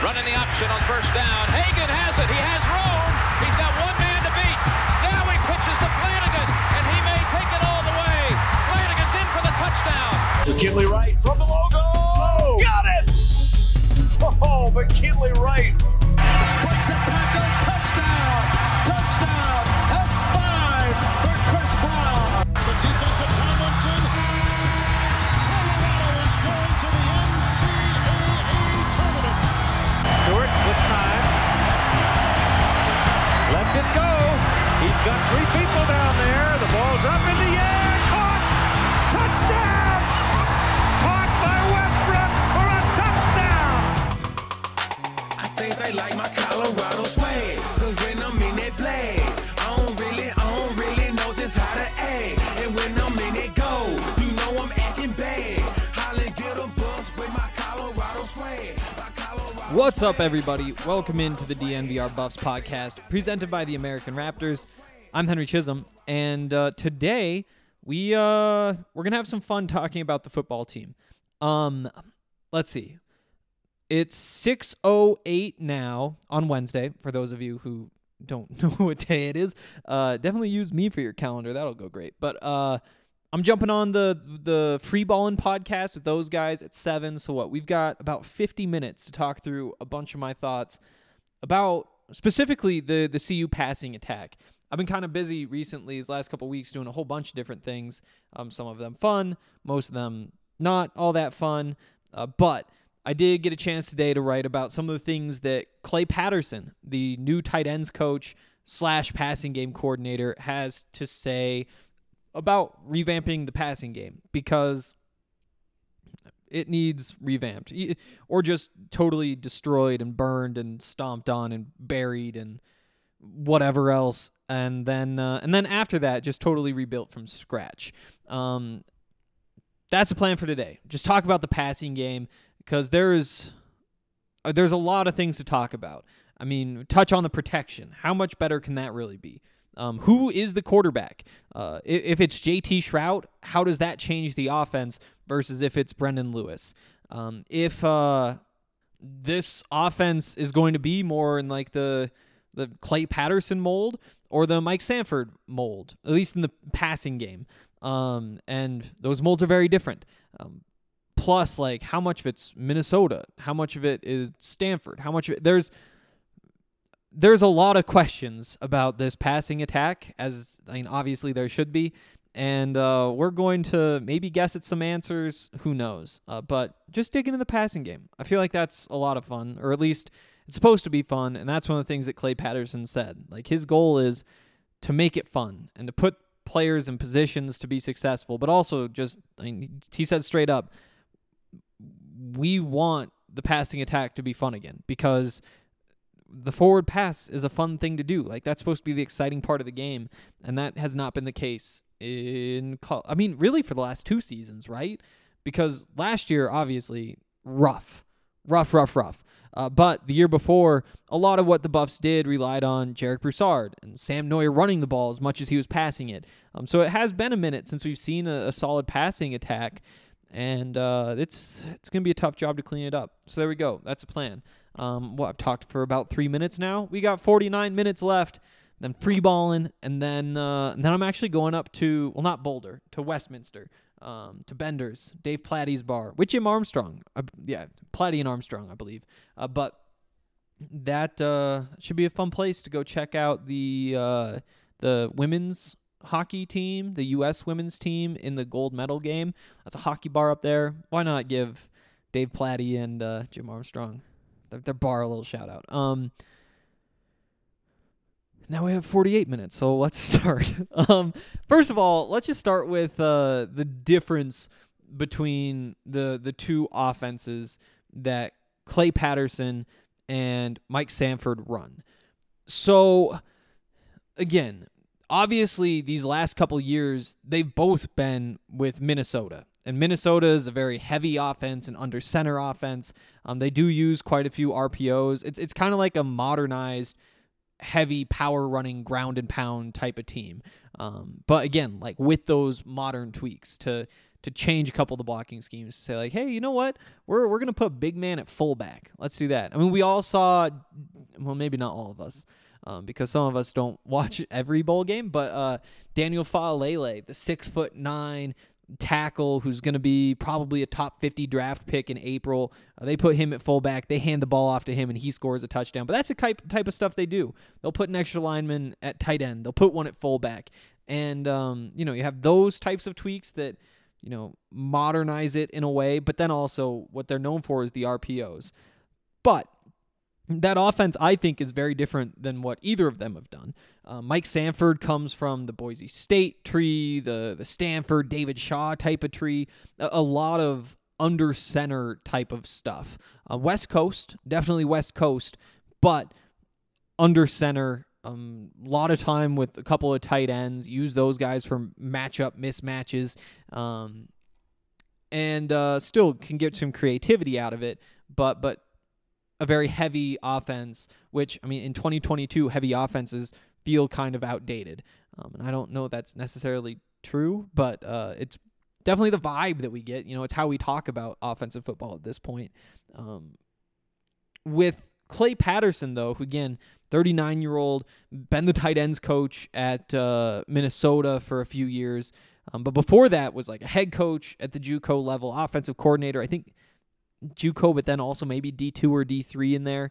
Running the option on first down. Hagan has it. He has room. He's got one man to beat. Now he pitches to Flanagan, and he may take it all the way. Flanagan's in for the touchdown. McKinley Wright from the logo. Oh, got it! Oh, McKinley Wright. Breaks a tackle. Touchdown. Touchdown. That's 5 for Chris Brown. The defensive Tomlinson. Colorado is going to the NCAA tournament. Stewart with time. Lets it go. He's got 3 people down there. The ball's up in the air. Caught. Touchdown. Caught by Westbrook for a touchdown. I think they like my Colorado swag. Cause when I'm in that play, I don't really know just how to act. And when I'm in it go, you know I'm acting bad. Holly get a bus with my Colorado swag. What's up, everybody? Welcome into the DNVR Buffs podcast, presented by the American Raptors. I'm Henry Chisholm, and today we're gonna have some fun talking about the football team. Let's see. It's 6:08 now on Wednesday. For those of you who don't know what day it is, definitely use me for your calendar. That'll go great. But I'm jumping on the Free Ballin' podcast with those guys at 7. So what? We've got about 50 minutes to talk through a bunch of my thoughts about specifically the CU passing attack. I've been kind of busy recently these last couple weeks doing a whole bunch of different things. Some of them fun, most of them not all that fun. But I did get a chance today to write about some of the things that Clay Patterson, the new tight ends coach / passing game coordinator, has to say about revamping the passing game, because it needs revamped or just totally destroyed and burned and stomped on and buried and whatever else. And then after that, just totally rebuilt from scratch. That's the plan for today. Just talk about the passing game, because there's a lot of things to talk about. I mean, touch on the protection. How much better can that really be? Who is the quarterback? If it's JT Shrout, how does that change the offense versus if it's Brendan Lewis? If this offense is going to be more in like the Clay Patterson mold or the Mike Sanford mold, at least in the passing game. And those molds are very different. Plus, like, how much of it's Minnesota? How much of it is Stanford? How much of it... There's a lot of questions about this passing attack, obviously there should be, and we're going to maybe guess at some answers. Who knows? But just dig into the passing game. I feel like that's a lot of fun, or at least it's supposed to be fun, and that's one of the things that Clay Patterson said. Like, his goal is to make it fun and to put players in positions to be successful, but also just, he said straight up, we want the passing attack to be fun again, because the forward pass is a fun thing to do. Like, that's supposed to be the exciting part of the game, and that has not been the case really for the last 2 seasons, right? Because last year, obviously, rough. But the year before, a lot of what the Buffs did relied on Jarek Broussard and Sam Noyer running the ball as much as he was passing it. So it has been a minute since we've seen a solid passing attack, and it's going to be a tough job to clean it up. So there we go. That's a plan. I've talked for about 3 minutes now. We got 49 minutes left. Then free balling, and then I'm actually going up to, well, not Boulder, to Westminster, to Bender's, Dave Platty's bar with Jim Armstrong. Platty and Armstrong, I believe. But that should be a fun place to go check out the women's hockey team, the U.S. women's team in the gold medal game. That's a hockey bar up there. Why not give Dave Platty and Jim Armstrong their bar a little shout out? Now we have 48 minutes, so let's start. First of all, let's just start with the difference between the two offenses that Clay Patterson and Mike Sanford run. So, again, obviously these last couple years, they've both been with Minnesota. And Minnesota is a very heavy offense and under center offense. They do use quite a few RPOs. It's kind of like a modernized, heavy power running ground and pound type of team. But again, like with those modern tweaks to to change a couple of the blocking schemes to say like, hey, you know what? We're going to put big man at fullback. Let's do that. I mean, we all saw, well, maybe not all of us, because some of us don't watch every bowl game, but Daniel Faalele, the 6'9" tackle who's going to be probably a top 50 draft pick in April. They put him at fullback. They hand the ball off to him, and he scores a touchdown. But that's the type of stuff they do. They'll put an extra lineman at tight end. They'll put one at fullback. And, you have those types of tweaks that, modernize it in a way. But then also what they're known for is the RPOs. But that offense, I think, is very different than what either of them have done. Mike Sanford comes from the Boise State tree, the Stanford, David Shaw type of tree, a lot of under center type of stuff. West Coast, definitely West Coast, but under center, a lot of time with a couple of tight ends, use those guys for matchup mismatches, and still can get some creativity out of it, but a very heavy offense, which, I mean, in 2022, heavy offenses feel kind of outdated. And I don't know if that's necessarily true, but it's definitely the vibe that we get. It's how we talk about offensive football at this point. With Clay Patterson, though, who, again, 39-year-old, been the tight ends coach at Minnesota for a few years. But before that was like a head coach at the JUCO level, offensive coordinator, I think, JUCO, but then also maybe D2 or D3 in there.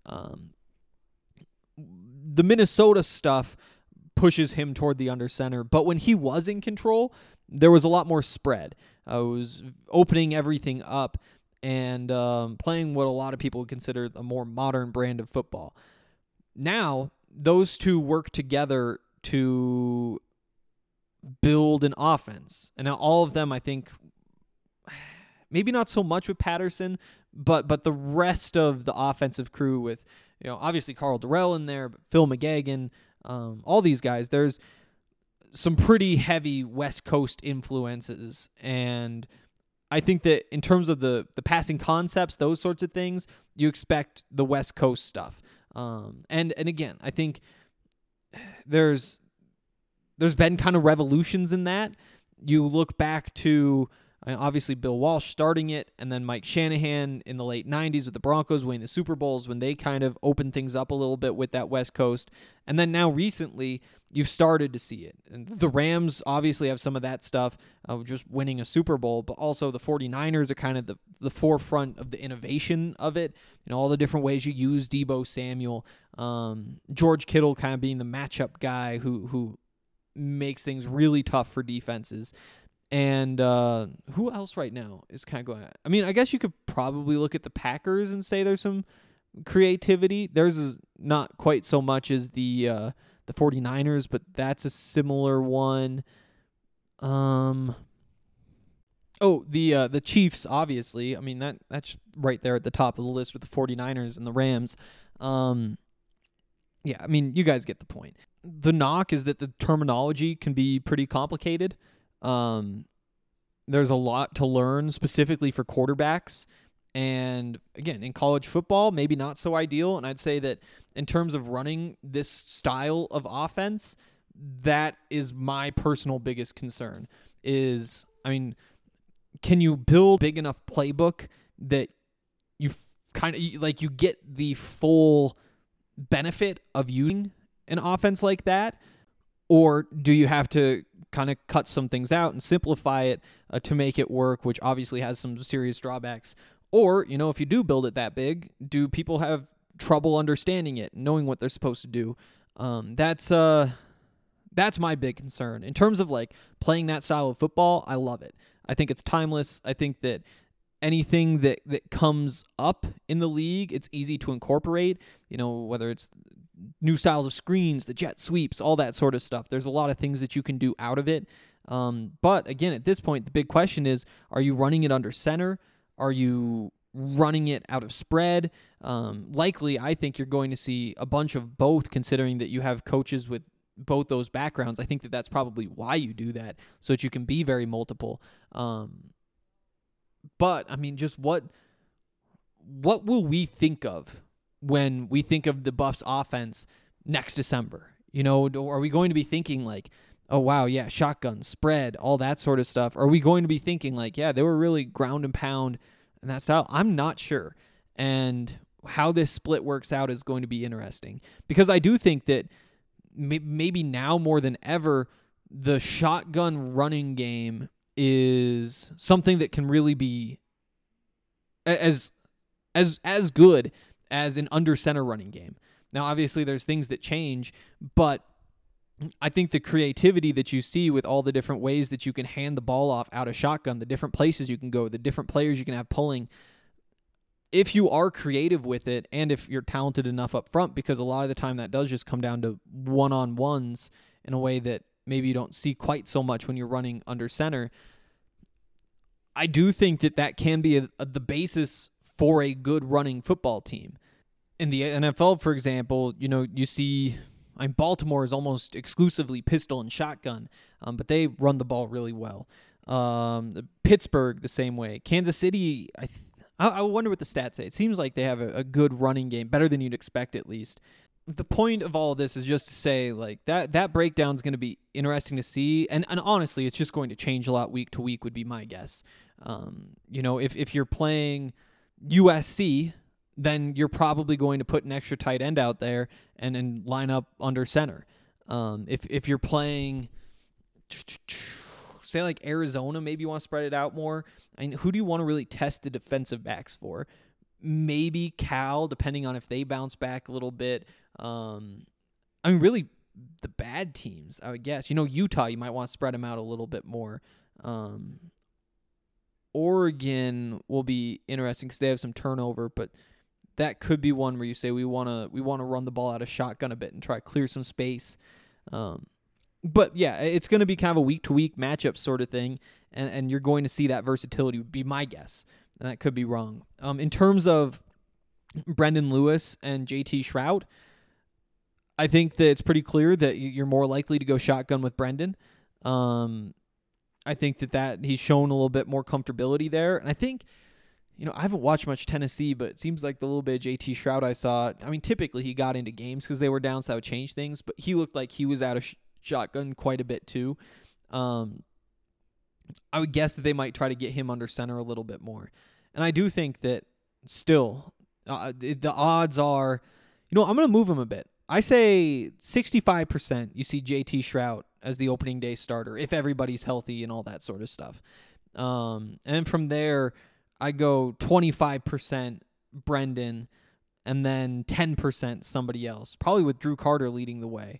The Minnesota stuff pushes him toward the under center, but when he was in control, there was a lot more spread. I was opening everything up and playing what a lot of people would consider a more modern brand of football. Now, those two work together to build an offense. And now all of them, I think, maybe not so much with Patterson, but the rest of the offensive crew with, obviously Carl Durrell in there, but Phil McGagan, all these guys, there's some pretty heavy West Coast influences. And I think that in terms of the passing concepts, those sorts of things, you expect the West Coast stuff. And again, I think there's been kind of revolutions in that. You look back to, obviously Bill Walsh starting it, and then Mike Shanahan in the late 90s with the Broncos winning the Super Bowls when they kind of opened things up a little bit with that West Coast. And then now recently, you've started to see it. And the Rams obviously have some of that stuff of just winning a Super Bowl, but also the 49ers are kind of the forefront of the innovation of it. All the different ways you use Deebo Samuel. George Kittle kind of being the matchup guy who makes things really tough for defenses. And who else right now is kind of going? I mean, I guess you could probably look at the Packers and say there's some creativity. Theirs is not quite so much as the 49ers, but that's a similar one. The Chiefs, obviously. I mean, that's right there at the top of the list with the 49ers and the Rams. Yeah, I mean, you guys get the point. The knock is that the terminology can be pretty complicated. There's a lot to learn specifically for quarterbacks. And again, in college football, maybe not so ideal. And I'd say that in terms of running this style of offense, that is my personal biggest concern is, I mean, can you build big enough playbook that you kind of like you get the full benefit of using an offense like that? Or do you have to kind of cut some things out and simplify it to make it work, which obviously has some serious drawbacks? Or, if you do build it that big, do people have trouble understanding it, knowing what they're supposed to do? That's my big concern. In terms of like playing that style of football, I love it. I think it's timeless. I think that anything that comes up in the league, it's easy to incorporate, whether it's new styles of screens, the jet sweeps, all that sort of stuff. There's a lot of things that you can do out of it. But again, at this point, the big question is, are you running it under center? Are you running it out of spread? Likely, I think you're going to see a bunch of both, considering that you have coaches with both those backgrounds. I think that that's probably why you do that, so that you can be very multiple. But, I mean, just what will we think of when we think of the Buffs offense next December? Are we going to be thinking like, oh, wow, yeah, shotgun, spread, all that sort of stuff? Are we going to be thinking like, yeah, they were really ground and pound and that style? I'm not sure. And how this split works out is going to be interesting because I do think that maybe now more than ever, the shotgun running game is something that can really be as good as an under center running game. Now, obviously, there's things that change, but I think the creativity that you see with all the different ways that you can hand the ball off out of shotgun, the different places you can go, the different players you can have pulling, if you are creative with it and if you're talented enough up front, because a lot of the time that does just come down to one-on-ones in a way that maybe you don't see quite so much when you're running under center, I do think that that can be the basis for a good running football team. In the NFL, for example, you see Baltimore is almost exclusively pistol and shotgun, but they run the ball really well. Pittsburgh, the same way. Kansas City, I wonder what the stats say. It seems like they have a good running game, better than you'd expect at least. The point of all of this is just to say like that breakdown is going to be interesting to see, and honestly, it's just going to change a lot week to week would be my guess. If you're playing USC, then you're probably going to put an extra tight end out there and line up under center. If you're playing, say like Arizona, maybe you want to spread it out more. I mean, who do you want to really test the defensive backs for? Maybe Cal, depending on if they bounce back a little bit. Really the bad teams, I would guess. Utah, you might want to spread them out a little bit more. Oregon will be interesting because they have some turnover, but that could be one where you say we want to run the ball out of shotgun a bit and try to clear some space. But yeah, it's going to be kind of a week-to-week matchup sort of thing, and you're going to see that versatility would be my guess, and that could be wrong. In terms of Brendan Lewis and JT Shrout, I think that it's pretty clear that you're more likely to go shotgun with Brendan. I think that he's shown a little bit more comfortability there, and I think, I haven't watched much Tennessee, but it seems like the little bit of JT Shrout I saw, typically he got into games because they were down, so that would change things, but he looked like he was out of shotgun quite a bit too. I would guess that they might try to get him under center a little bit more. And I do think that still the odds are, I'm going to move him a bit. I say 65% you see JT Shrout as the opening day starter if everybody's healthy and all that sort of stuff. And from there, I go 25% Brendan and then 10% somebody else, probably with Drew Carter leading the way.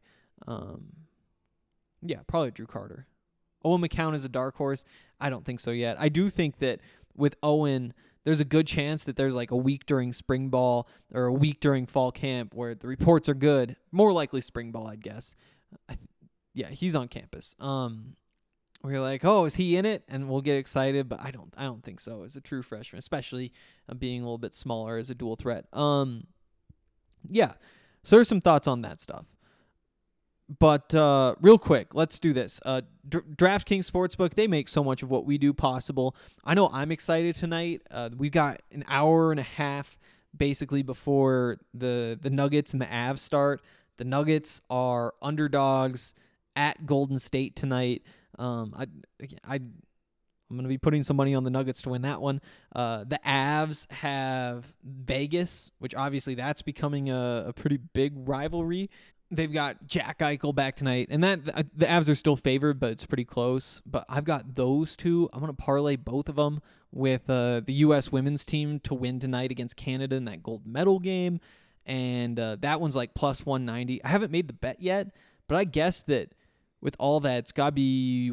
Probably Drew Carter. Owen McCown is a dark horse. I don't think so yet. I do think that with Owen, there's a good chance that there's like a week during spring ball or a week during fall camp where the reports are good. More likely spring ball, I'd guess. He's on campus. Where you're like, oh, is he in it? And we'll get excited, but I don't think so as a true freshman, especially being a little bit smaller as a dual threat. So there's some thoughts on that stuff. But real quick, let's do this. DraftKings Sportsbook, they make so much of what we do possible. I know I'm excited tonight. We've got an hour and a half basically before the Nuggets and the Avs start. The Nuggets are underdogs at Golden State tonight. I'm going to be putting some money on the Nuggets to win that one. The Avs have Vegas, which obviously that's becoming a pretty big rivalry. They've got Jack Eichel back tonight, and that the Avs are still favored, but it's pretty close. But I've got those two. I'm going to parlay both of them with the U.S. women's team to win tonight against Canada in that gold medal game, and that one's like plus 190. I haven't made the bet yet, but I guess that with all that, it's got to be,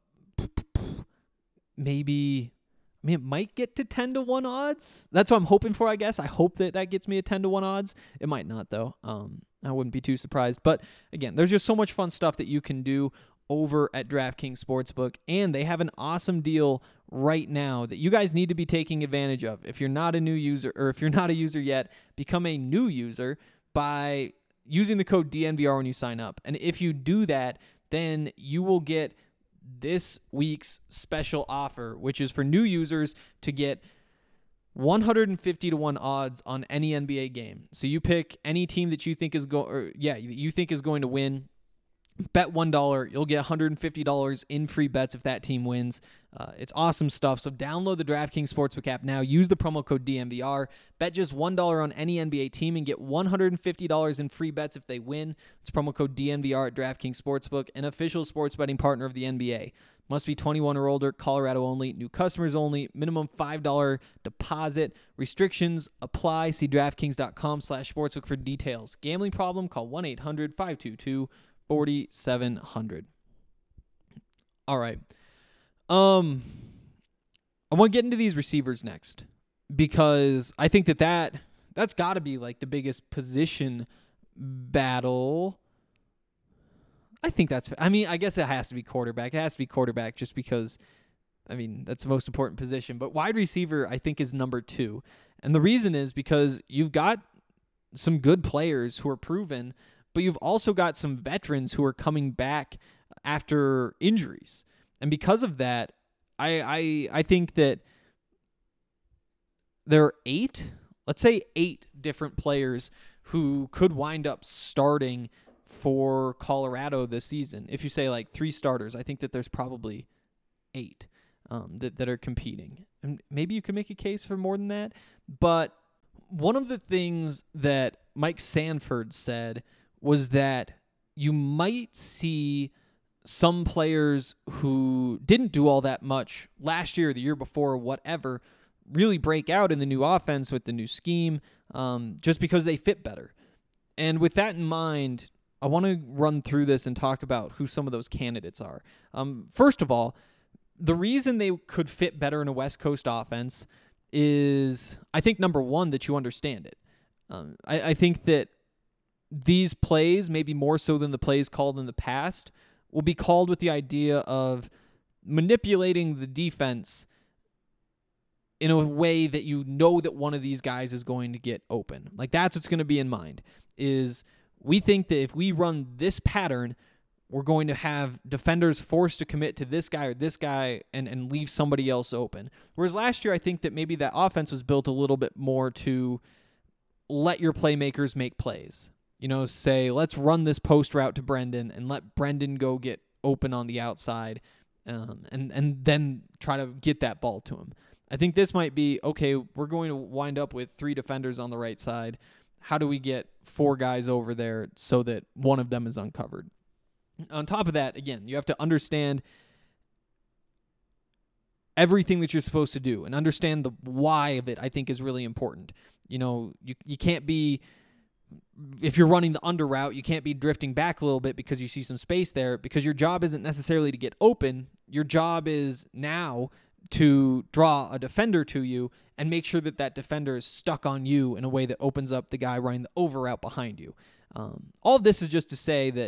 maybe, it might get to 10-1 odds. That's what I'm hoping for, I guess. I hope that gets me a 10-1 odds. It might not, though. I wouldn't be too surprised. But, again, there's just so much fun stuff that you can do over at DraftKings Sportsbook, and they have an awesome deal right now that you guys need to be taking advantage of. If you're not a new user, or if you're not a user yet, become a new user by using the code DNVR when you sign up. And if you do that, then you will get this week's special offer, which is for new users to get 150-1 odds on any NBA game. So you pick any team that you think is going to win, Bet $1, you'll get $150 in free bets if that team wins. It's awesome stuff. So download the DraftKings Sportsbook app now. Use the promo code DNVR. Bet just $1 on any NBA team and get $150 in free bets if they win. It's promo code DNVR at DraftKings Sportsbook, an official sports betting partner of the NBA. Must be 21 or older, Colorado only, new customers only, minimum $5 deposit. Restrictions apply. See DraftKings.com/sportsbook for details. Gambling problem? Call 1-800-522-4700. All right. I want to get into these receivers next because I think that's got to be like the biggest position battle. I guess it has to be quarterback. It has to be quarterback just because, that's the most important position. But wide receiver, I think, is number 2. And the reason is because you've got some good players who are proven, but you've also got some veterans who are coming back after injuries. And because of that, I think that there are 8 different players who could wind up starting for Colorado this season. If you say like 3 starters, I think that there's probably 8 that are competing. And maybe you could make a case for more than that. But one of the things that Mike Sanford said was that you might see some players who didn't do all that much last year, the year before, whatever, really break out in the new offense with the new scheme just because they fit better. And with that in mind, I want to run through this and talk about who some of those candidates are. First of all, the reason they could fit better in a West Coast offense is, I think, number one, that you understand it. I think that these plays, maybe more so than the plays called in the past, will be called with the idea of manipulating the defense in a way that you know that one of these guys is going to get open. Like, that's what's going to be in mind, is we think that if we run this pattern, we're going to have defenders forced to commit to this guy or this guy and leave somebody else open. Whereas last year, I think that maybe that offense was built a little bit more to let your playmakers make plays. Say, let's run this post route to Brendan and let Brendan go get open on the outside and then try to get that ball to him. I think this might be, okay, we're going to wind up with 3 defenders on the right side. How do we get 4 guys over there so that one of them is uncovered? On top of that, again, you have to understand everything that you're supposed to do and understand the why of it, I think, is really important. You can't be, if you're running the under route, you can't be drifting back a little bit because you see some space there, because your job isn't necessarily to get open. Your job is now to draw a defender to you and make sure that that defender is stuck on you in a way that opens up the guy running the over route behind you. All of this is just to say that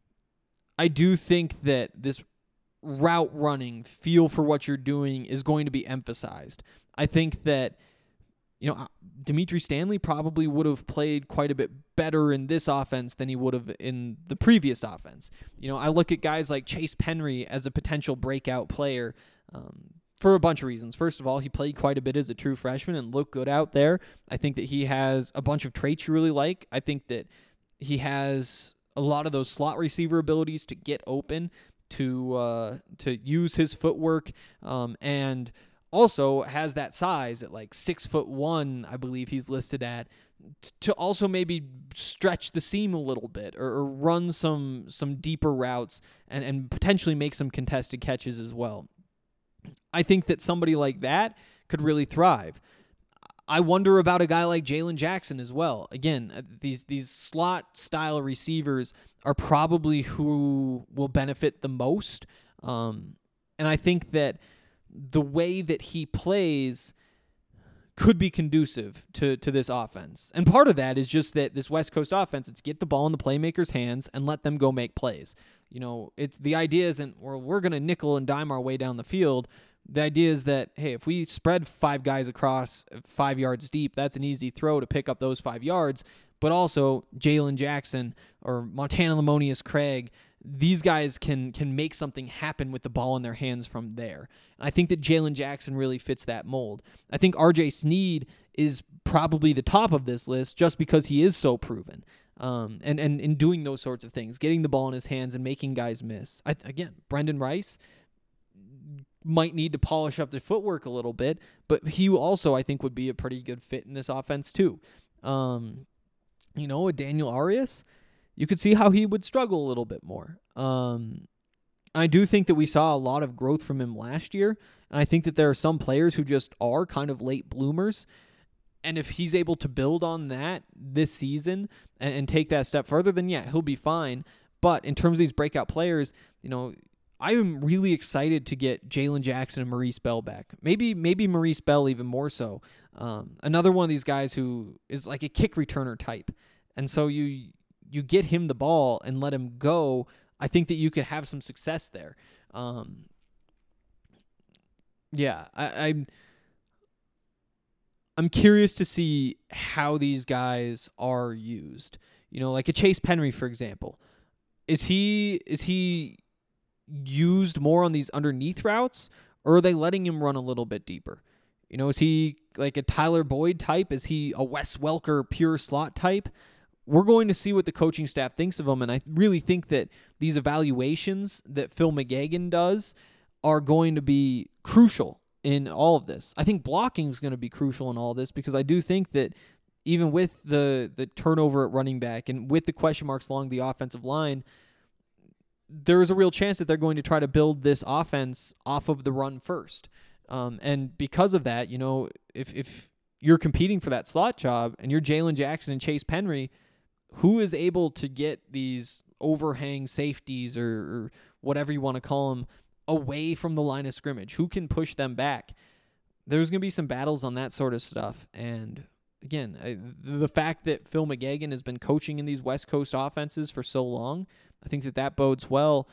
I do think that this route running, feel for what you're doing, is going to be emphasized. I think that, Dimitri Stanley probably would have played quite a bit better in this offense than he would have in the previous offense. I look at guys like Chase Penry as a potential breakout player for a bunch of reasons. First of all, he played quite a bit as a true freshman and looked good out there. I think that he has a bunch of traits you really like. I think that he has a lot of those slot receiver abilities to get open, to use his footwork, and also has that size at like 6'1", I believe he's listed at, to also maybe stretch the seam a little bit or run some deeper routes and potentially make some contested catches as well. I think that somebody like that could really thrive. I wonder about a guy like Jalen Jackson as well. Again, these slot style receivers are probably who will benefit the most. And I think that the way that he plays could be conducive to this offense. And part of that is just that this West Coast offense, it's get the ball in the playmakers' hands and let them go make plays. The idea isn't, we're going to nickel and dime our way down the field. The idea is that, hey, if we spread 5 guys across 5 yards deep, that's an easy throw to pick up those 5 yards. But also Jalen Jackson or Montana Lamonius Craig, these guys can make something happen with the ball in their hands from there. And I think that Jalen Jackson really fits that mold. I think RJ Sneed is probably the top of this list just because he is so proven. and in doing those sorts of things, getting the ball in his hands and making guys miss. Again, Brendan Rice might need to polish up the footwork a little bit, but he also, I think, would be a pretty good fit in this offense too. A Daniel Arias, you could see how he would struggle a little bit more. I do think that we saw a lot of growth from him last year, and I think that there are some players who just are kind of late bloomers, and if he's able to build on that this season and take that step further, then yeah, he'll be fine. But in terms of these breakout players, I'm really excited to get Jalen Jackson and Maurice Bell back. Maybe Maurice Bell even more so. Another one of these guys who is like a kick returner type. And so you get him the ball and let him go. I think that you could have some success there. I'm curious to see how these guys are used. Like a Chase Penry, for example. Is he used more on these underneath routes, or are they letting him run a little bit deeper? Is he like a Tyler Boyd type? Is he a Wes Welker pure slot type? We're going to see what the coaching staff thinks of him, and I really think that these evaluations that Phil McGagan does are going to be crucial in all of this. I think blocking is going to be crucial in all of this, because I do think that even with the turnover at running back and with the question marks along the offensive line, there is a real chance that they're going to try to build this offense off of the run first. And because of that, if you're competing for that slot job and you're Jalen Jackson and Chase Penry, who is able to get these overhang safeties or whatever you want to call them away from the line of scrimmage? Who can push them back? There's going to be some battles on that sort of stuff. And again, the fact that Phil McGagan has been coaching in these West Coast offenses for so long, I think that bodes well.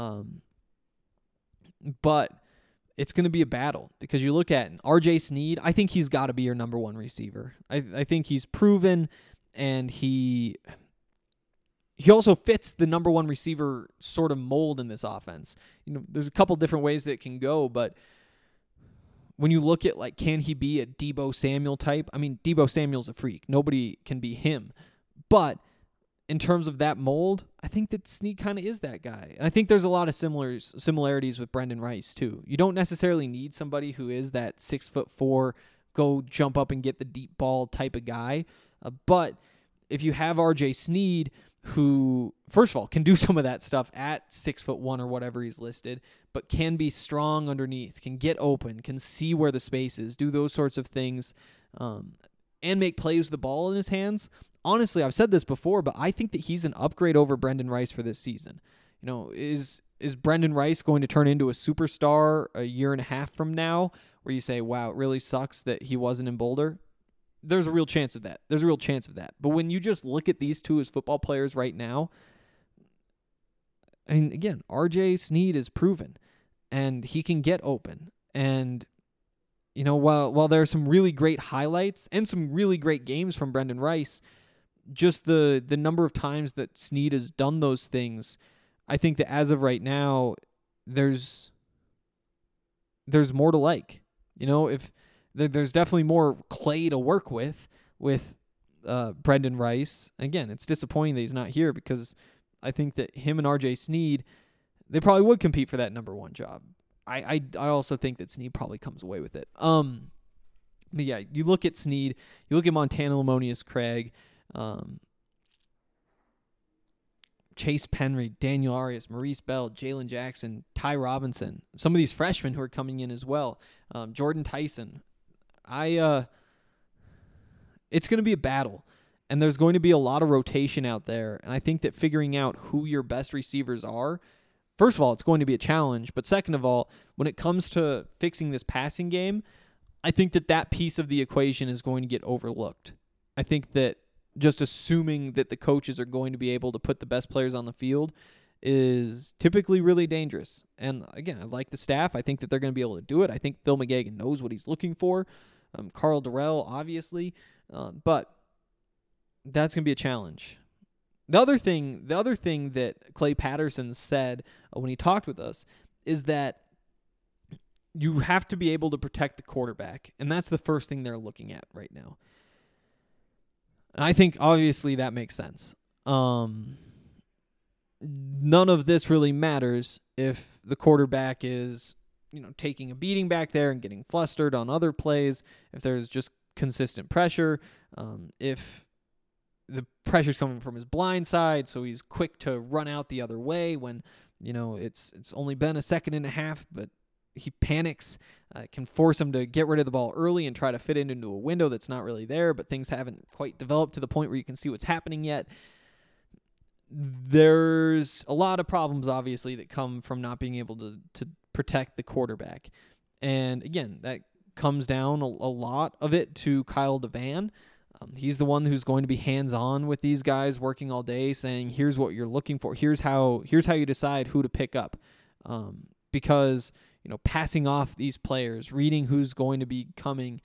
But it's going to be a battle, because you look at R.J. Sneed, I think he's got to be your number one receiver. I think he's proven, and he also fits the number one receiver sort of mold in this offense. There's a couple different ways that it can go, but when you look at, like, can he be a Deebo Samuel type? I mean, Deebo Samuel's a freak. Nobody can be him. But in terms of that mold, I think that Snead kind of is that guy. And I think there's a lot of similarities with Brendan Rice, too. You don't necessarily need somebody who is that 6'4", go jump up and get the deep ball type of guy. But if you have R.J. Snead, who, first of all, can do some of that stuff at 6'1" or whatever he's listed, but can be strong underneath, can get open, can see where the space is, do those sorts of things, and make plays with the ball in his hands. Honestly, I've said this before, but I think that he's an upgrade over Brendan Rice for this season. Is Brendan Rice going to turn into a superstar a year and a half from now, where you say, wow, it really sucks that he wasn't in Boulder? There's a real chance of that. But when you just look at these two as football players right now, I mean, again, R.J. Snead is proven, and he can get open. And, while there are some really great highlights and some really great games from Brendan Rice, just the number of times that Snead has done those things, I think that as of right now, there's more to like. If there's definitely more clay to work with Brendan Rice. Again, it's disappointing that he's not here, because I think that him and R.J. Snead, they probably would compete for that number one job. I also think that Snead probably comes away with it. But yeah, you look at Snead, you look at Montana Lamonius Craig, Chase Penry, Daniel Arias, Maurice Bell, Jalen Jackson, Ty Robinson, some of these freshmen who are coming in as well, Jordan Tyson. It's going to be a battle, and there's going to be a lot of rotation out there, and I think that figuring out who your best receivers are, first of all, it's going to be a challenge, but second of all, when it comes to fixing this passing game, I think that piece of the equation is going to get overlooked. I think that just assuming that the coaches are going to be able to put the best players on the field is typically really dangerous. And again, I like the staff. I think that they're going to be able to do it. I think Phil McGagan knows what he's looking for. Carl Durrell, obviously. But that's going to be a challenge. The other thing that Clay Patterson said when he talked with us is that you have to be able to protect the quarterback, and that's the first thing they're looking at right now. And I think, obviously, that makes sense. None of this really matters if the quarterback is, taking a beating back there and getting flustered on other plays, if there's just consistent pressure, if the pressure's coming from his blind side, so he's quick to run out the other way when, it's only been a second and a half, but he panics, can force him to get rid of the ball early and try to fit it into a window that's not really there, but things haven't quite developed to the point where you can see what's happening yet. There's a lot of problems, obviously, that come from not being able to protect the quarterback. And again, that comes down a lot of it to Kyle DeVan. He's the one who's going to be hands-on with these guys, working all day, saying, here's what you're looking for. Here's how you decide who to pick up. Because, passing off these players, reading who's going to be coming.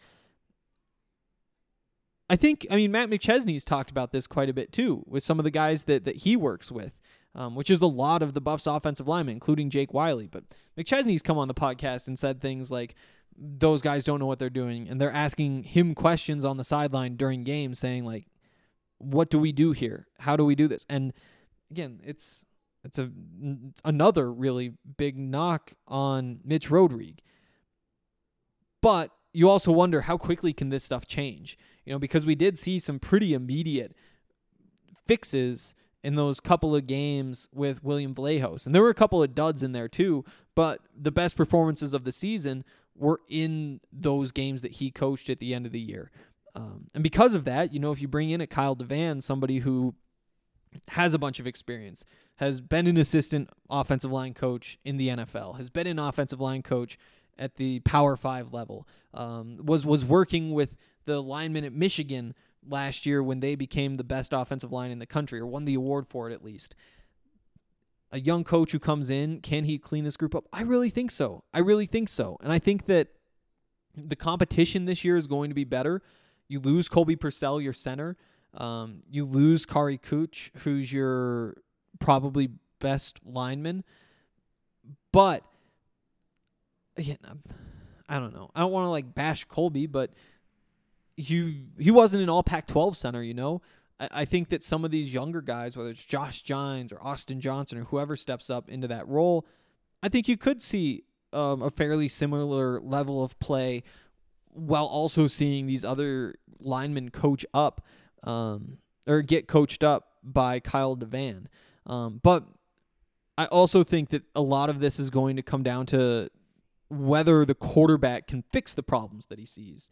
Matt McChesney's talked about this quite a bit too, with some of the guys that he works with, which is a lot of the Buffs offensive linemen, including Jake Wiley. But McChesney's come on the podcast and said things like, those guys don't know what they're doing, and they're asking him questions on the sideline during games, saying like, what do we do here? How do we do this? And again, it's another really big knock on Mitch Rodrigue. But you also wonder, how quickly can this stuff change? Because we did see some pretty immediate fixes in those couple of games with William Vallejos. And there were a couple of duds in there too, but the best performances of the season were in those games that he coached at the end of the year. And because of that, if you bring in a Kyle DeVan, somebody who has a bunch of experience, has been an assistant offensive line coach in the NFL, has been an offensive line coach at the Power 5 level, was working with the linemen at Michigan last year when they became the best offensive line in the country, or won the award for it at least. A young coach who comes in, can he clean this group up? I really think so. And I think that the competition this year is going to be better. You lose Colby Purcell, your center. You lose Kari Kuch, who's your probably best lineman. But, again, I don't know. I don't want to bash Colby, but he wasn't an all Pac-12 center, I think that some of these younger guys, whether it's Josh Gines or Austin Johnson or whoever steps up into that role, I think you could see a fairly similar level of play while also seeing these other linemen coach up or get coached up by Kyle DeVan. But I also think that a lot of this is going to come down to whether the quarterback can fix the problems that he sees.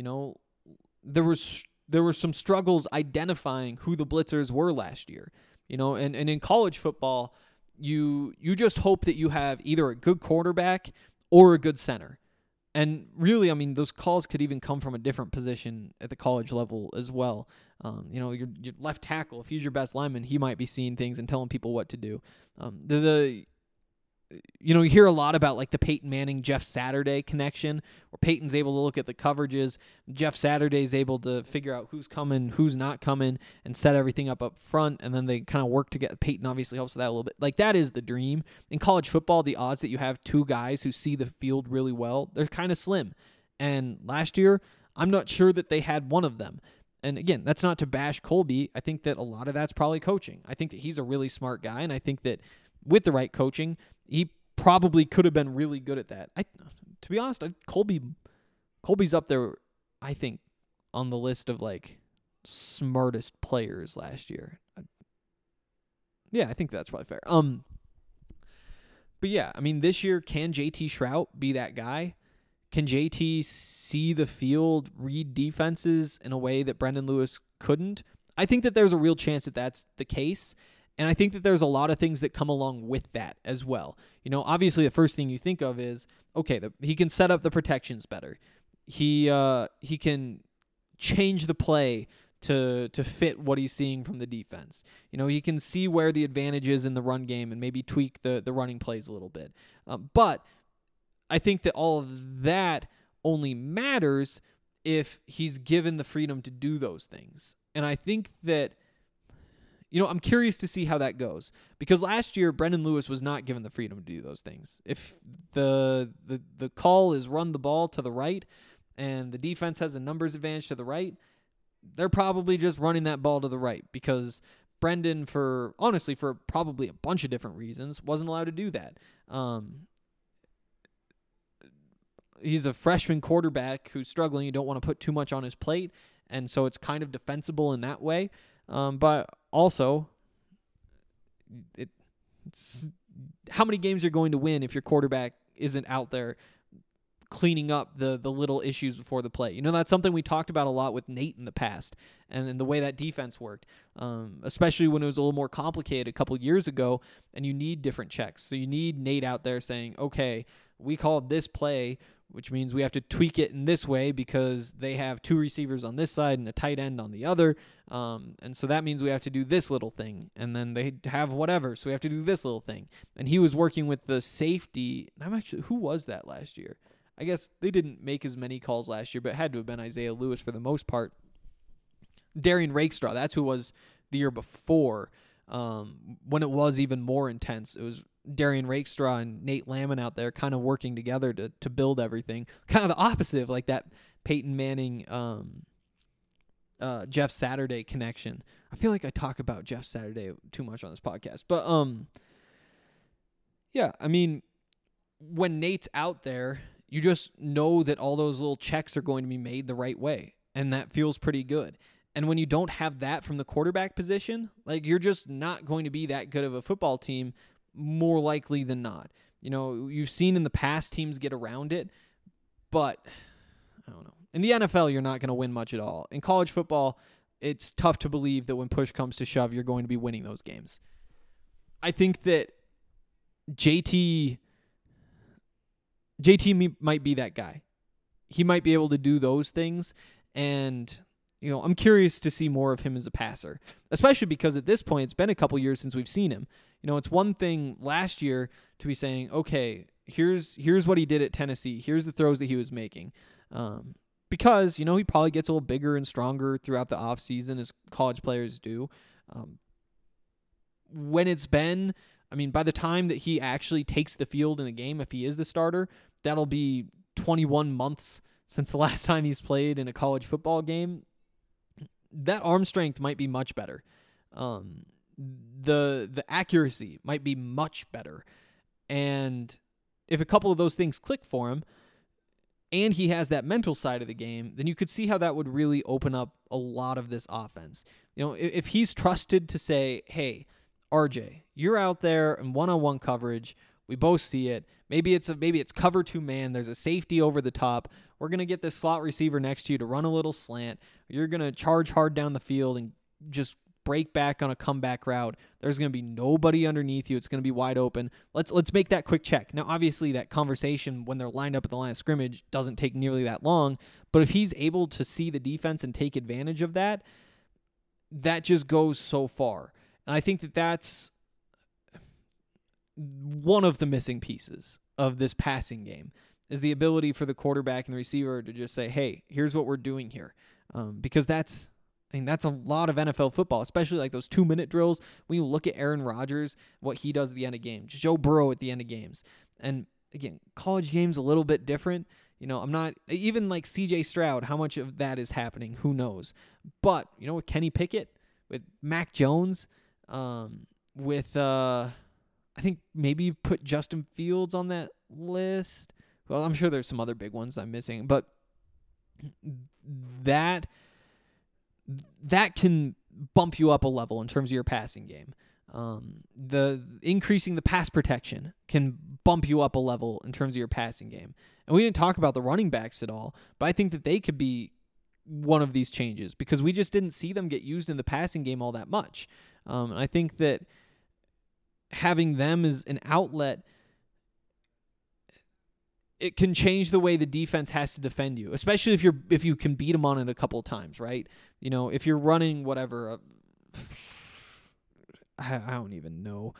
There were some struggles identifying who the blitzers were last year, and in college football, you just hope that you have either a good quarterback or a good center. And really, those calls could even come from a different position at the college level as well. Your left tackle, if he's your best lineman, he might be seeing things and telling people what to do. You hear a lot about the Peyton Manning, Jeff Saturday connection, where Peyton's able to look at the coverages. Jeff Saturday's able to figure out who's coming, who's not coming, and set everything up front, and then they kind of work together. Peyton obviously helps with that a little bit. That is the dream. In college football, the odds that you have two guys who see the field really well, they're kind of slim. And last year, I'm not sure that they had one of them. And again, that's not to bash Colby. I think that a lot of that's probably coaching. I think that he's a really smart guy, and I think that with the right coaching, he probably could have been really good at that. To be honest, Colby's up there, I think, on the list of smartest players last year. Yeah, I think that's probably fair. But yeah, this year, can JT Shrout be that guy? Can JT see the field, read defenses in a way that Brendan Lewis couldn't? I think that there's a real chance that that's the case. And I think that there's a lot of things that come along with that as well. Obviously the first thing you think of is, okay, he can set up the protections better. He can change the play to fit what he's seeing from the defense. He can see where the advantage is in the run game and maybe tweak the running plays a little bit. But I think that all of that only matters if he's given the freedom to do those things. And I think that I'm curious to see how that goes, because last year Brendan Lewis was not given the freedom to do those things. If the call is run the ball to the right and the defense has a numbers advantage to the right, they're probably just running that ball to the right because Brendan, for probably a bunch of different reasons, wasn't allowed to do that. He's a freshman quarterback who's struggling. You don't want to put too much on his plate, and so it's kind of defensible in that way. But also, it's how many games you're going to win if your quarterback isn't out there cleaning up the little issues before the play. That's something we talked about a lot with Nate in the past, and the way that defense worked, especially when it was a little more complicated a couple years ago, and you need different checks. So you need Nate out there saying, okay, we called this play, which means we have to tweak it in this way because they have 2 receivers on this side and a tight end on the other. And so that means we have to do this little thing. And then they have whatever, so we have to do this little thing. And he was working with the safety. Who was that last year? I guess they didn't make as many calls last year, but it had to have been Isaiah Lewis for the most part. Darian Rakestraw, that's who was the year before, when it was even more intense. It was Darian Rakestraw and Nate Lamon out there kind of working together to build everything. Kind of the opposite of like that Peyton Manning, Jeff Saturday connection. I feel like I talk about Jeff Saturday too much on this podcast. But yeah, I mean, when Nate's out there, you just know that all those little checks are going to be made the right way, and that feels pretty good. And when you don't have that from the quarterback position, like, you're just not going to be that good of a football team, more likely than not. You've seen in the past teams get around it, but I don't know. In the NFL, you're not going to win much at all. In college football, it's tough to believe that when push comes to shove, you're going to be winning those games. I think that JT might be that guy. He might be able to do those things, and I'm curious to see more of him as a passer, especially because at this point, it's been a couple years since we've seen him. It's one thing last year to be saying, okay, here's what he did at Tennessee. Here's the throws that he was making. Because, he probably gets a little bigger and stronger throughout the offseason, as college players do. When it's been, by the time that he actually takes the field in the game, if he is the starter, that'll be 21 months since the last time he's played in a college football game. That arm strength might be much better. The accuracy might be much better. And if a couple of those things click for him, and he has that mental side of the game, then you could see how that would really open up a lot of this offense. If he's trusted to say, hey, RJ, you're out there in one-on-one coverage. We both see it. Maybe it's cover 2 man. There's a safety over the top. We're going to get this slot receiver next to you to run a little slant. You're going to charge hard down the field and just break back on a comeback route. There's going to be nobody underneath you. It's going to be wide open. Let's make that quick check. Now, obviously, that conversation when they're lined up at the line of scrimmage doesn't take nearly that long, but if he's able to see the defense and take advantage of that, that just goes so far. And I think that that's one of the missing pieces of this passing game, is the ability for the quarterback and the receiver to just say, hey, here's what we're doing here. Because that's a lot of NFL football, especially like those 2-minute drills. When you look at Aaron Rodgers, what he does at the end of games, Joe Burrow at the end of games. And again, college games a little bit different. I'm not, even like CJ Stroud, how much of that is happening, who knows? But, with Kenny Pickett, with Mac Jones, with, I think maybe you put Justin Fields on that list. Well, I'm sure there's some other big ones I'm missing, but that can bump you up a level in terms of your passing game. The increasing the pass protection can bump you up a level in terms of your passing game. And we didn't talk about the running backs at all, but I think that they could be one of these changes because we just didn't see them get used in the passing game all that much. And I think that having them as an outlet, it can change the way the defense has to defend you, especially if you can beat them on it a couple of times, right? If you're running whatever, I don't even know.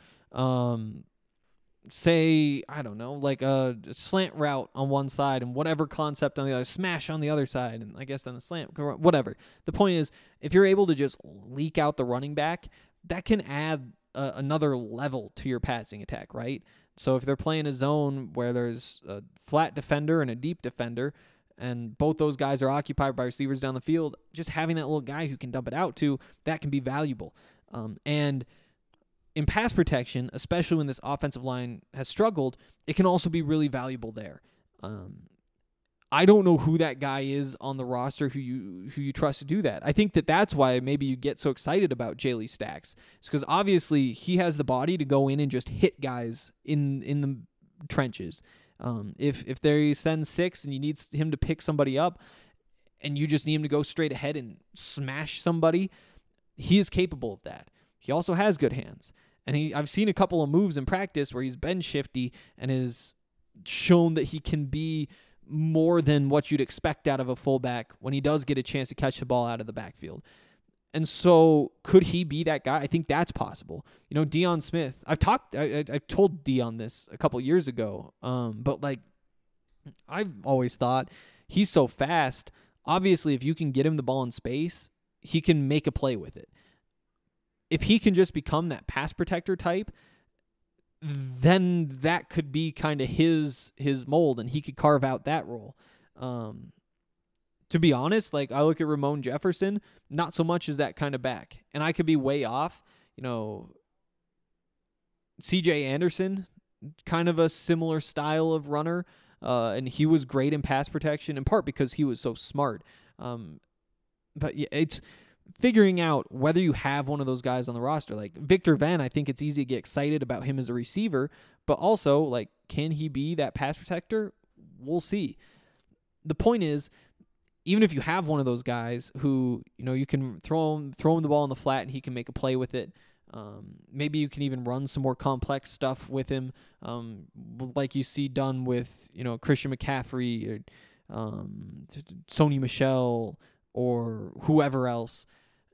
Say, I don't know, like a slant route on one side and whatever concept on the other, smash on the other side, and I guess then the slant, whatever. The point is, if you're able to just leak out the running back, that can add another level to your passing attack, right? So if they're playing a zone where there's a flat defender and a deep defender, and both those guys are occupied by receivers down the field, just having that little guy who can dump it out to, that can be valuable. And in pass protection, especially when this offensive line has struggled, it can also be really valuable there. I don't know who that guy is on the roster who you trust to do that. I think that's why maybe you get so excited about Jaley Stacks. It's because obviously he has the body to go in and just hit guys in the trenches. If they send 6 and you need him to pick somebody up and you just need him to go straight ahead and smash somebody, he is capable of that. He also has good hands. And I've seen a couple of moves in practice where he's been shifty and has shown that he can be more than what you'd expect out of a fullback when he does get a chance to catch the ball out of the backfield. And so could he be that guy? I think that's possible. Deion Smith, I've told Deion this a couple years ago. But like, I've always thought he's so fast. Obviously, if you can get him the ball in space, he can make a play with it. If he can just become that pass protector type, then that could be kind of his mold, and he could carve out that role. To be honest, like I look at Ramon Jefferson, not so much as that kind of back, and I could be way off. C.J. Anderson, kind of a similar style of runner, and he was great in pass protection, in part because he was so smart. But yeah, it's figuring out whether you have one of those guys on the roster. Like Victor Venn, I think it's easy to get excited about him as a receiver, but also, like, can he be that pass protector? We'll see. The point is, even if you have one of those guys who, you can throw him the ball in the flat and he can make a play with it, maybe you can even run some more complex stuff with him, like you see done with, Christian McCaffrey or Sony Michel or whoever else.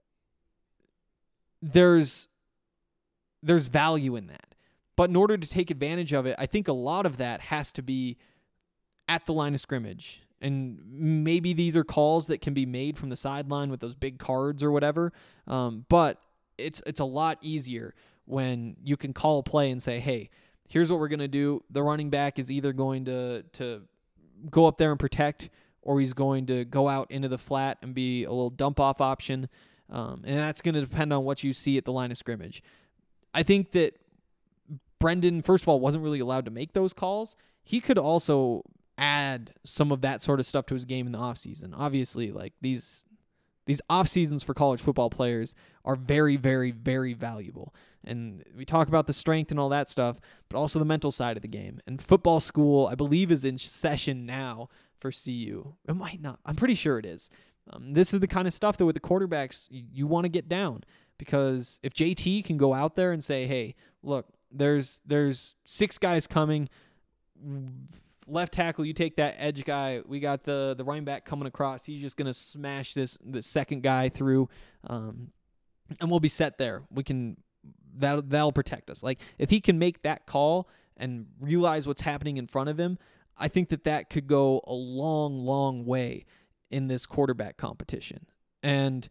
There's value in that. But in order to take advantage of it, I think a lot of that has to be at the line of scrimmage. And maybe these are calls that can be made from the sideline with those big cards or whatever. But it's a lot easier when you can call a play and say, hey, here's what we're going to do. The running back is either going to go up there and protect, or he's going to go out into the flat and be a little dump-off option. And that's going to depend on what you see at the line of scrimmage. I think that Brendan, first of all, wasn't really allowed to make those calls. He could also add some of that sort of stuff to his game in the offseason. Obviously, like these off-seasons for college football players are very, very, very valuable. And we talk about the strength and all that stuff, but also the mental side of the game. And football school, I believe, is in session now for CU. It might not. I'm pretty sure it is. This is the kind of stuff that with the quarterbacks you want to get down, because if JT can go out there and say, hey, look, there's 6 guys coming, left tackle, you take that edge guy, we got the running back coming across, he's just going to smash the second guy through, and we'll be set there. That'll protect us. Like, if he can make that call and realize what's happening in front of him, I think that could go a long, long way in this quarterback competition. And,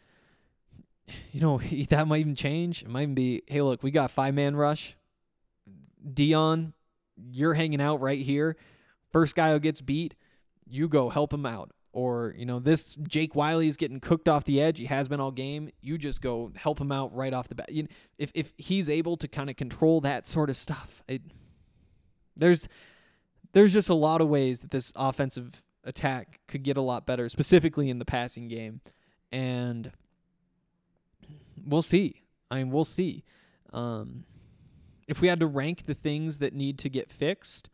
that might even change. It might even be, hey, look, we got 5-man rush. Deion, you're hanging out right here. First guy who gets beat, you go help him out. Or, this Jake Wiley is getting cooked off the edge. He has been all game. You just go help him out right off the bat. If he's able to kind of control that sort of stuff, there's just a lot of ways that this offensive attack could get a lot better, specifically in the passing game. And we'll see. We'll see. If we had to rank the things that need to get fixed,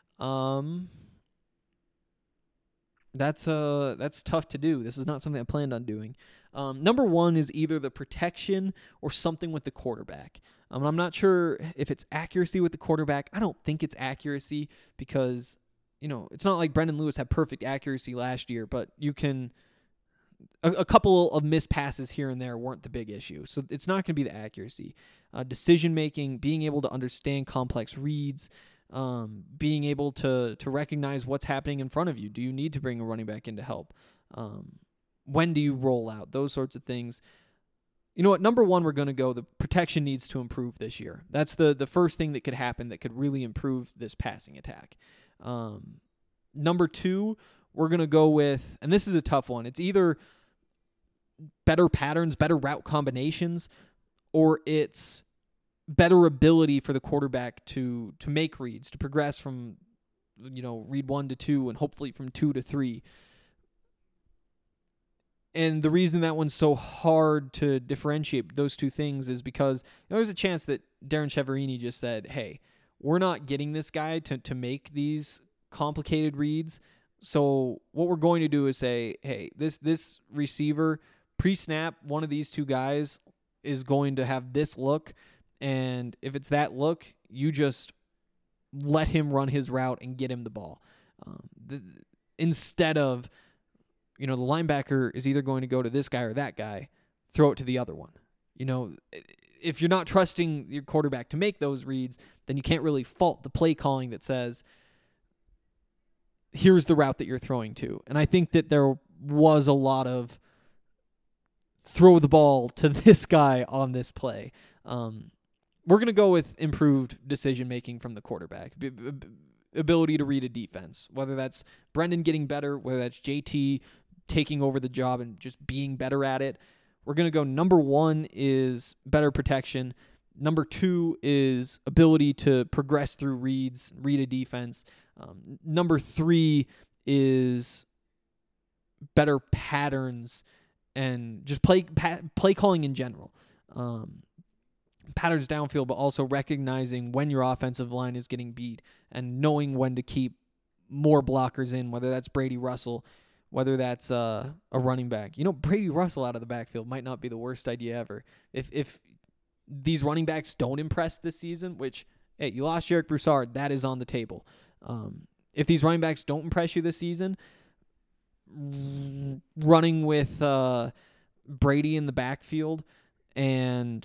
that's tough to do. This is not something I planned on doing. Number 1 is either the protection or something with the quarterback. I'm not sure if it's accuracy with the quarterback. I don't think it's accuracy because, it's not like Brendan Lewis had perfect accuracy last year, but you can a couple of missed passes here and there weren't the big issue. So it's not going to be the accuracy. Decision-making, being able to understand complex reads, being able to recognize what's happening in front of you. Do you need to bring a running back in to help? When do you roll out? Those sorts of things. You know what? Number 1, we're going to go, the protection needs to improve this year. That's the first thing that could happen that could really improve this passing attack. Number 2, we're going to go with, and this is a tough one, it's either better patterns, better route combinations, or it's better ability for the quarterback to make reads, to progress from, read 1 to 2 and hopefully from 2 to 3. And the reason that one's so hard to differentiate those two things is because there's a chance that Darren Chiaverini just said, hey, we're not getting this guy to make these complicated reads. So what we're going to do is say, hey, this receiver, pre-snap, one of these two guys is going to have this look. And if it's that look, you just let him run his route and get him the ball. Instead of, the linebacker is either going to go to this guy or that guy, throw it to the other one. If you're not trusting your quarterback to make those reads, then you can't really fault the play calling that says, here's the route that you're throwing to. And I think that there was a lot of throw the ball to this guy on this play. We're going to go with improved decision-making from the quarterback, ability to read a defense, whether that's Brendan getting better, whether that's JT taking over the job and just being better at it. We're going to go number 1 is better protection. Number 2 is ability to progress through reads, read a defense. Number 3 is better patterns and just play calling in general. Patterns downfield, but also recognizing when your offensive line is getting beat and knowing when to keep more blockers in, whether that's Brady Russell, whether that's a running back. Brady Russell out of the backfield might not be the worst idea ever. If these running backs don't impress this season, which, hey, you lost Jarek Broussard, that is on the table. If these running backs don't impress you this season, running with Brady in the backfield and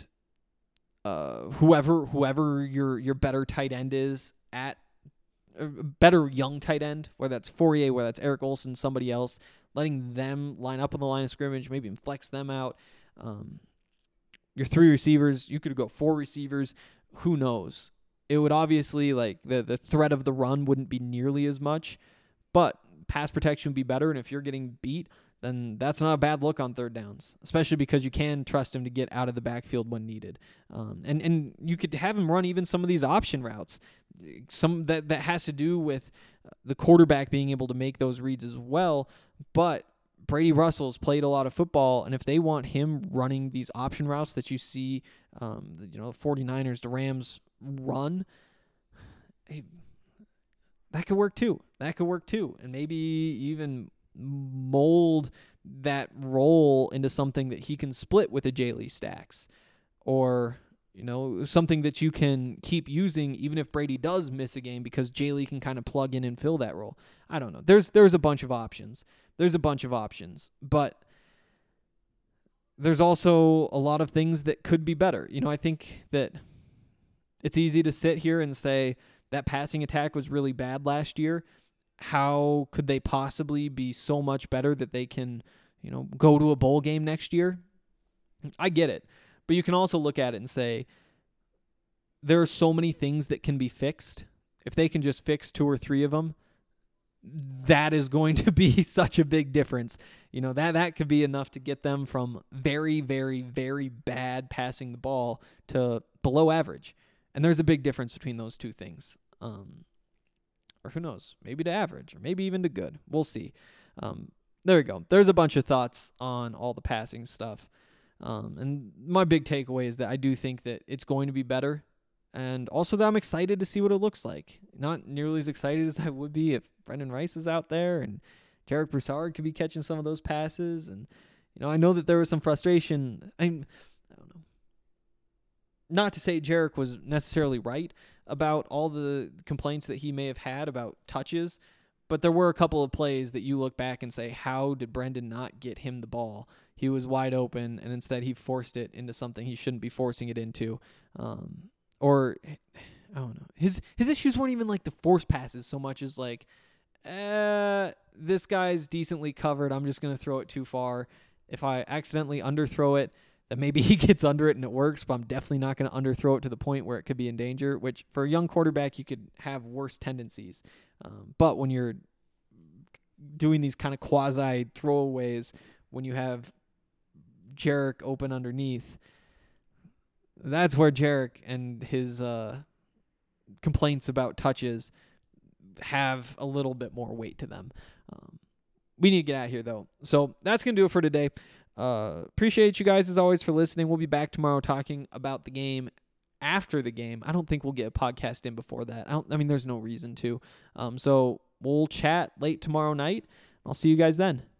whoever your better tight end is at better young tight end, whether that's Fourier, whether that's Eric Olson, somebody else, letting them line up on the line of scrimmage, maybe even flex them out. Your 3 receivers, you could go 4 receivers. Who knows? It would obviously, the threat of the run wouldn't be nearly as much, but pass protection would be better. And if you're getting beat, then that's not a bad look on third downs, especially because you can trust him to get out of the backfield when needed. And you could have him run even some of these option routes. Some that has to do with the quarterback being able to make those reads as well. But Brady Russell's played a lot of football, and if they want him running these option routes that you see, the 49ers, the Rams run, that could work too. And maybe even mold that role into something that he can split with a J-Lee Stacks, or something that you can keep using even if Brady does miss a game, because J-Lee can kind of plug in and fill that role. I don't know. There's a bunch of options. But there's also a lot of things that could be better. I think that it's easy to sit here and say that passing attack was really bad last year. How could they possibly be so much better that they can, go to a bowl game next year? I get it. But you can also look at it and say, there are so many things that can be fixed. If they can just fix 2 or 3 of them, that is going to be such a big difference. That could be enough to get them from very, very, very bad passing the ball to below average. And there's a big difference between those two things. Or who knows, maybe to average, or maybe even to good. We'll see. There we go. There's a bunch of thoughts on all the passing stuff. And my big takeaway is that I do think that it's going to be better. And also that I'm excited to see what it looks like. Not nearly as excited as I would be if Brendan Rice is out there and Jarek Broussard could be catching some of those passes. And, I know that there was some frustration. I don't know. Not to say Jarek was necessarily right about all the complaints that he may have had about touches, but there were a couple of plays that you look back and say, how did Brendan not get him the ball? He was wide open, and instead he forced it into something he shouldn't be forcing it into. Or, I don't know. His issues weren't even like the force passes so much as like, this guy's decently covered, I'm just going to throw it too far. If I accidentally underthrow it, then maybe he gets under it and it works, but I'm definitely not going to underthrow it to the point where it could be in danger, which for a young quarterback, you could have worse tendencies. But when you're doing these kind of quasi throwaways, when you have Jarek open underneath, That's where Jarek and his complaints about touches have a little bit more weight to them. We need to get out of here, though. So that's going to do it for today. Appreciate you guys, as always, for listening. We'll be back tomorrow talking about the game after the game. I don't think we'll get a podcast in before that. I mean, there's no reason to. So we'll chat late tomorrow night. I'll see you guys then.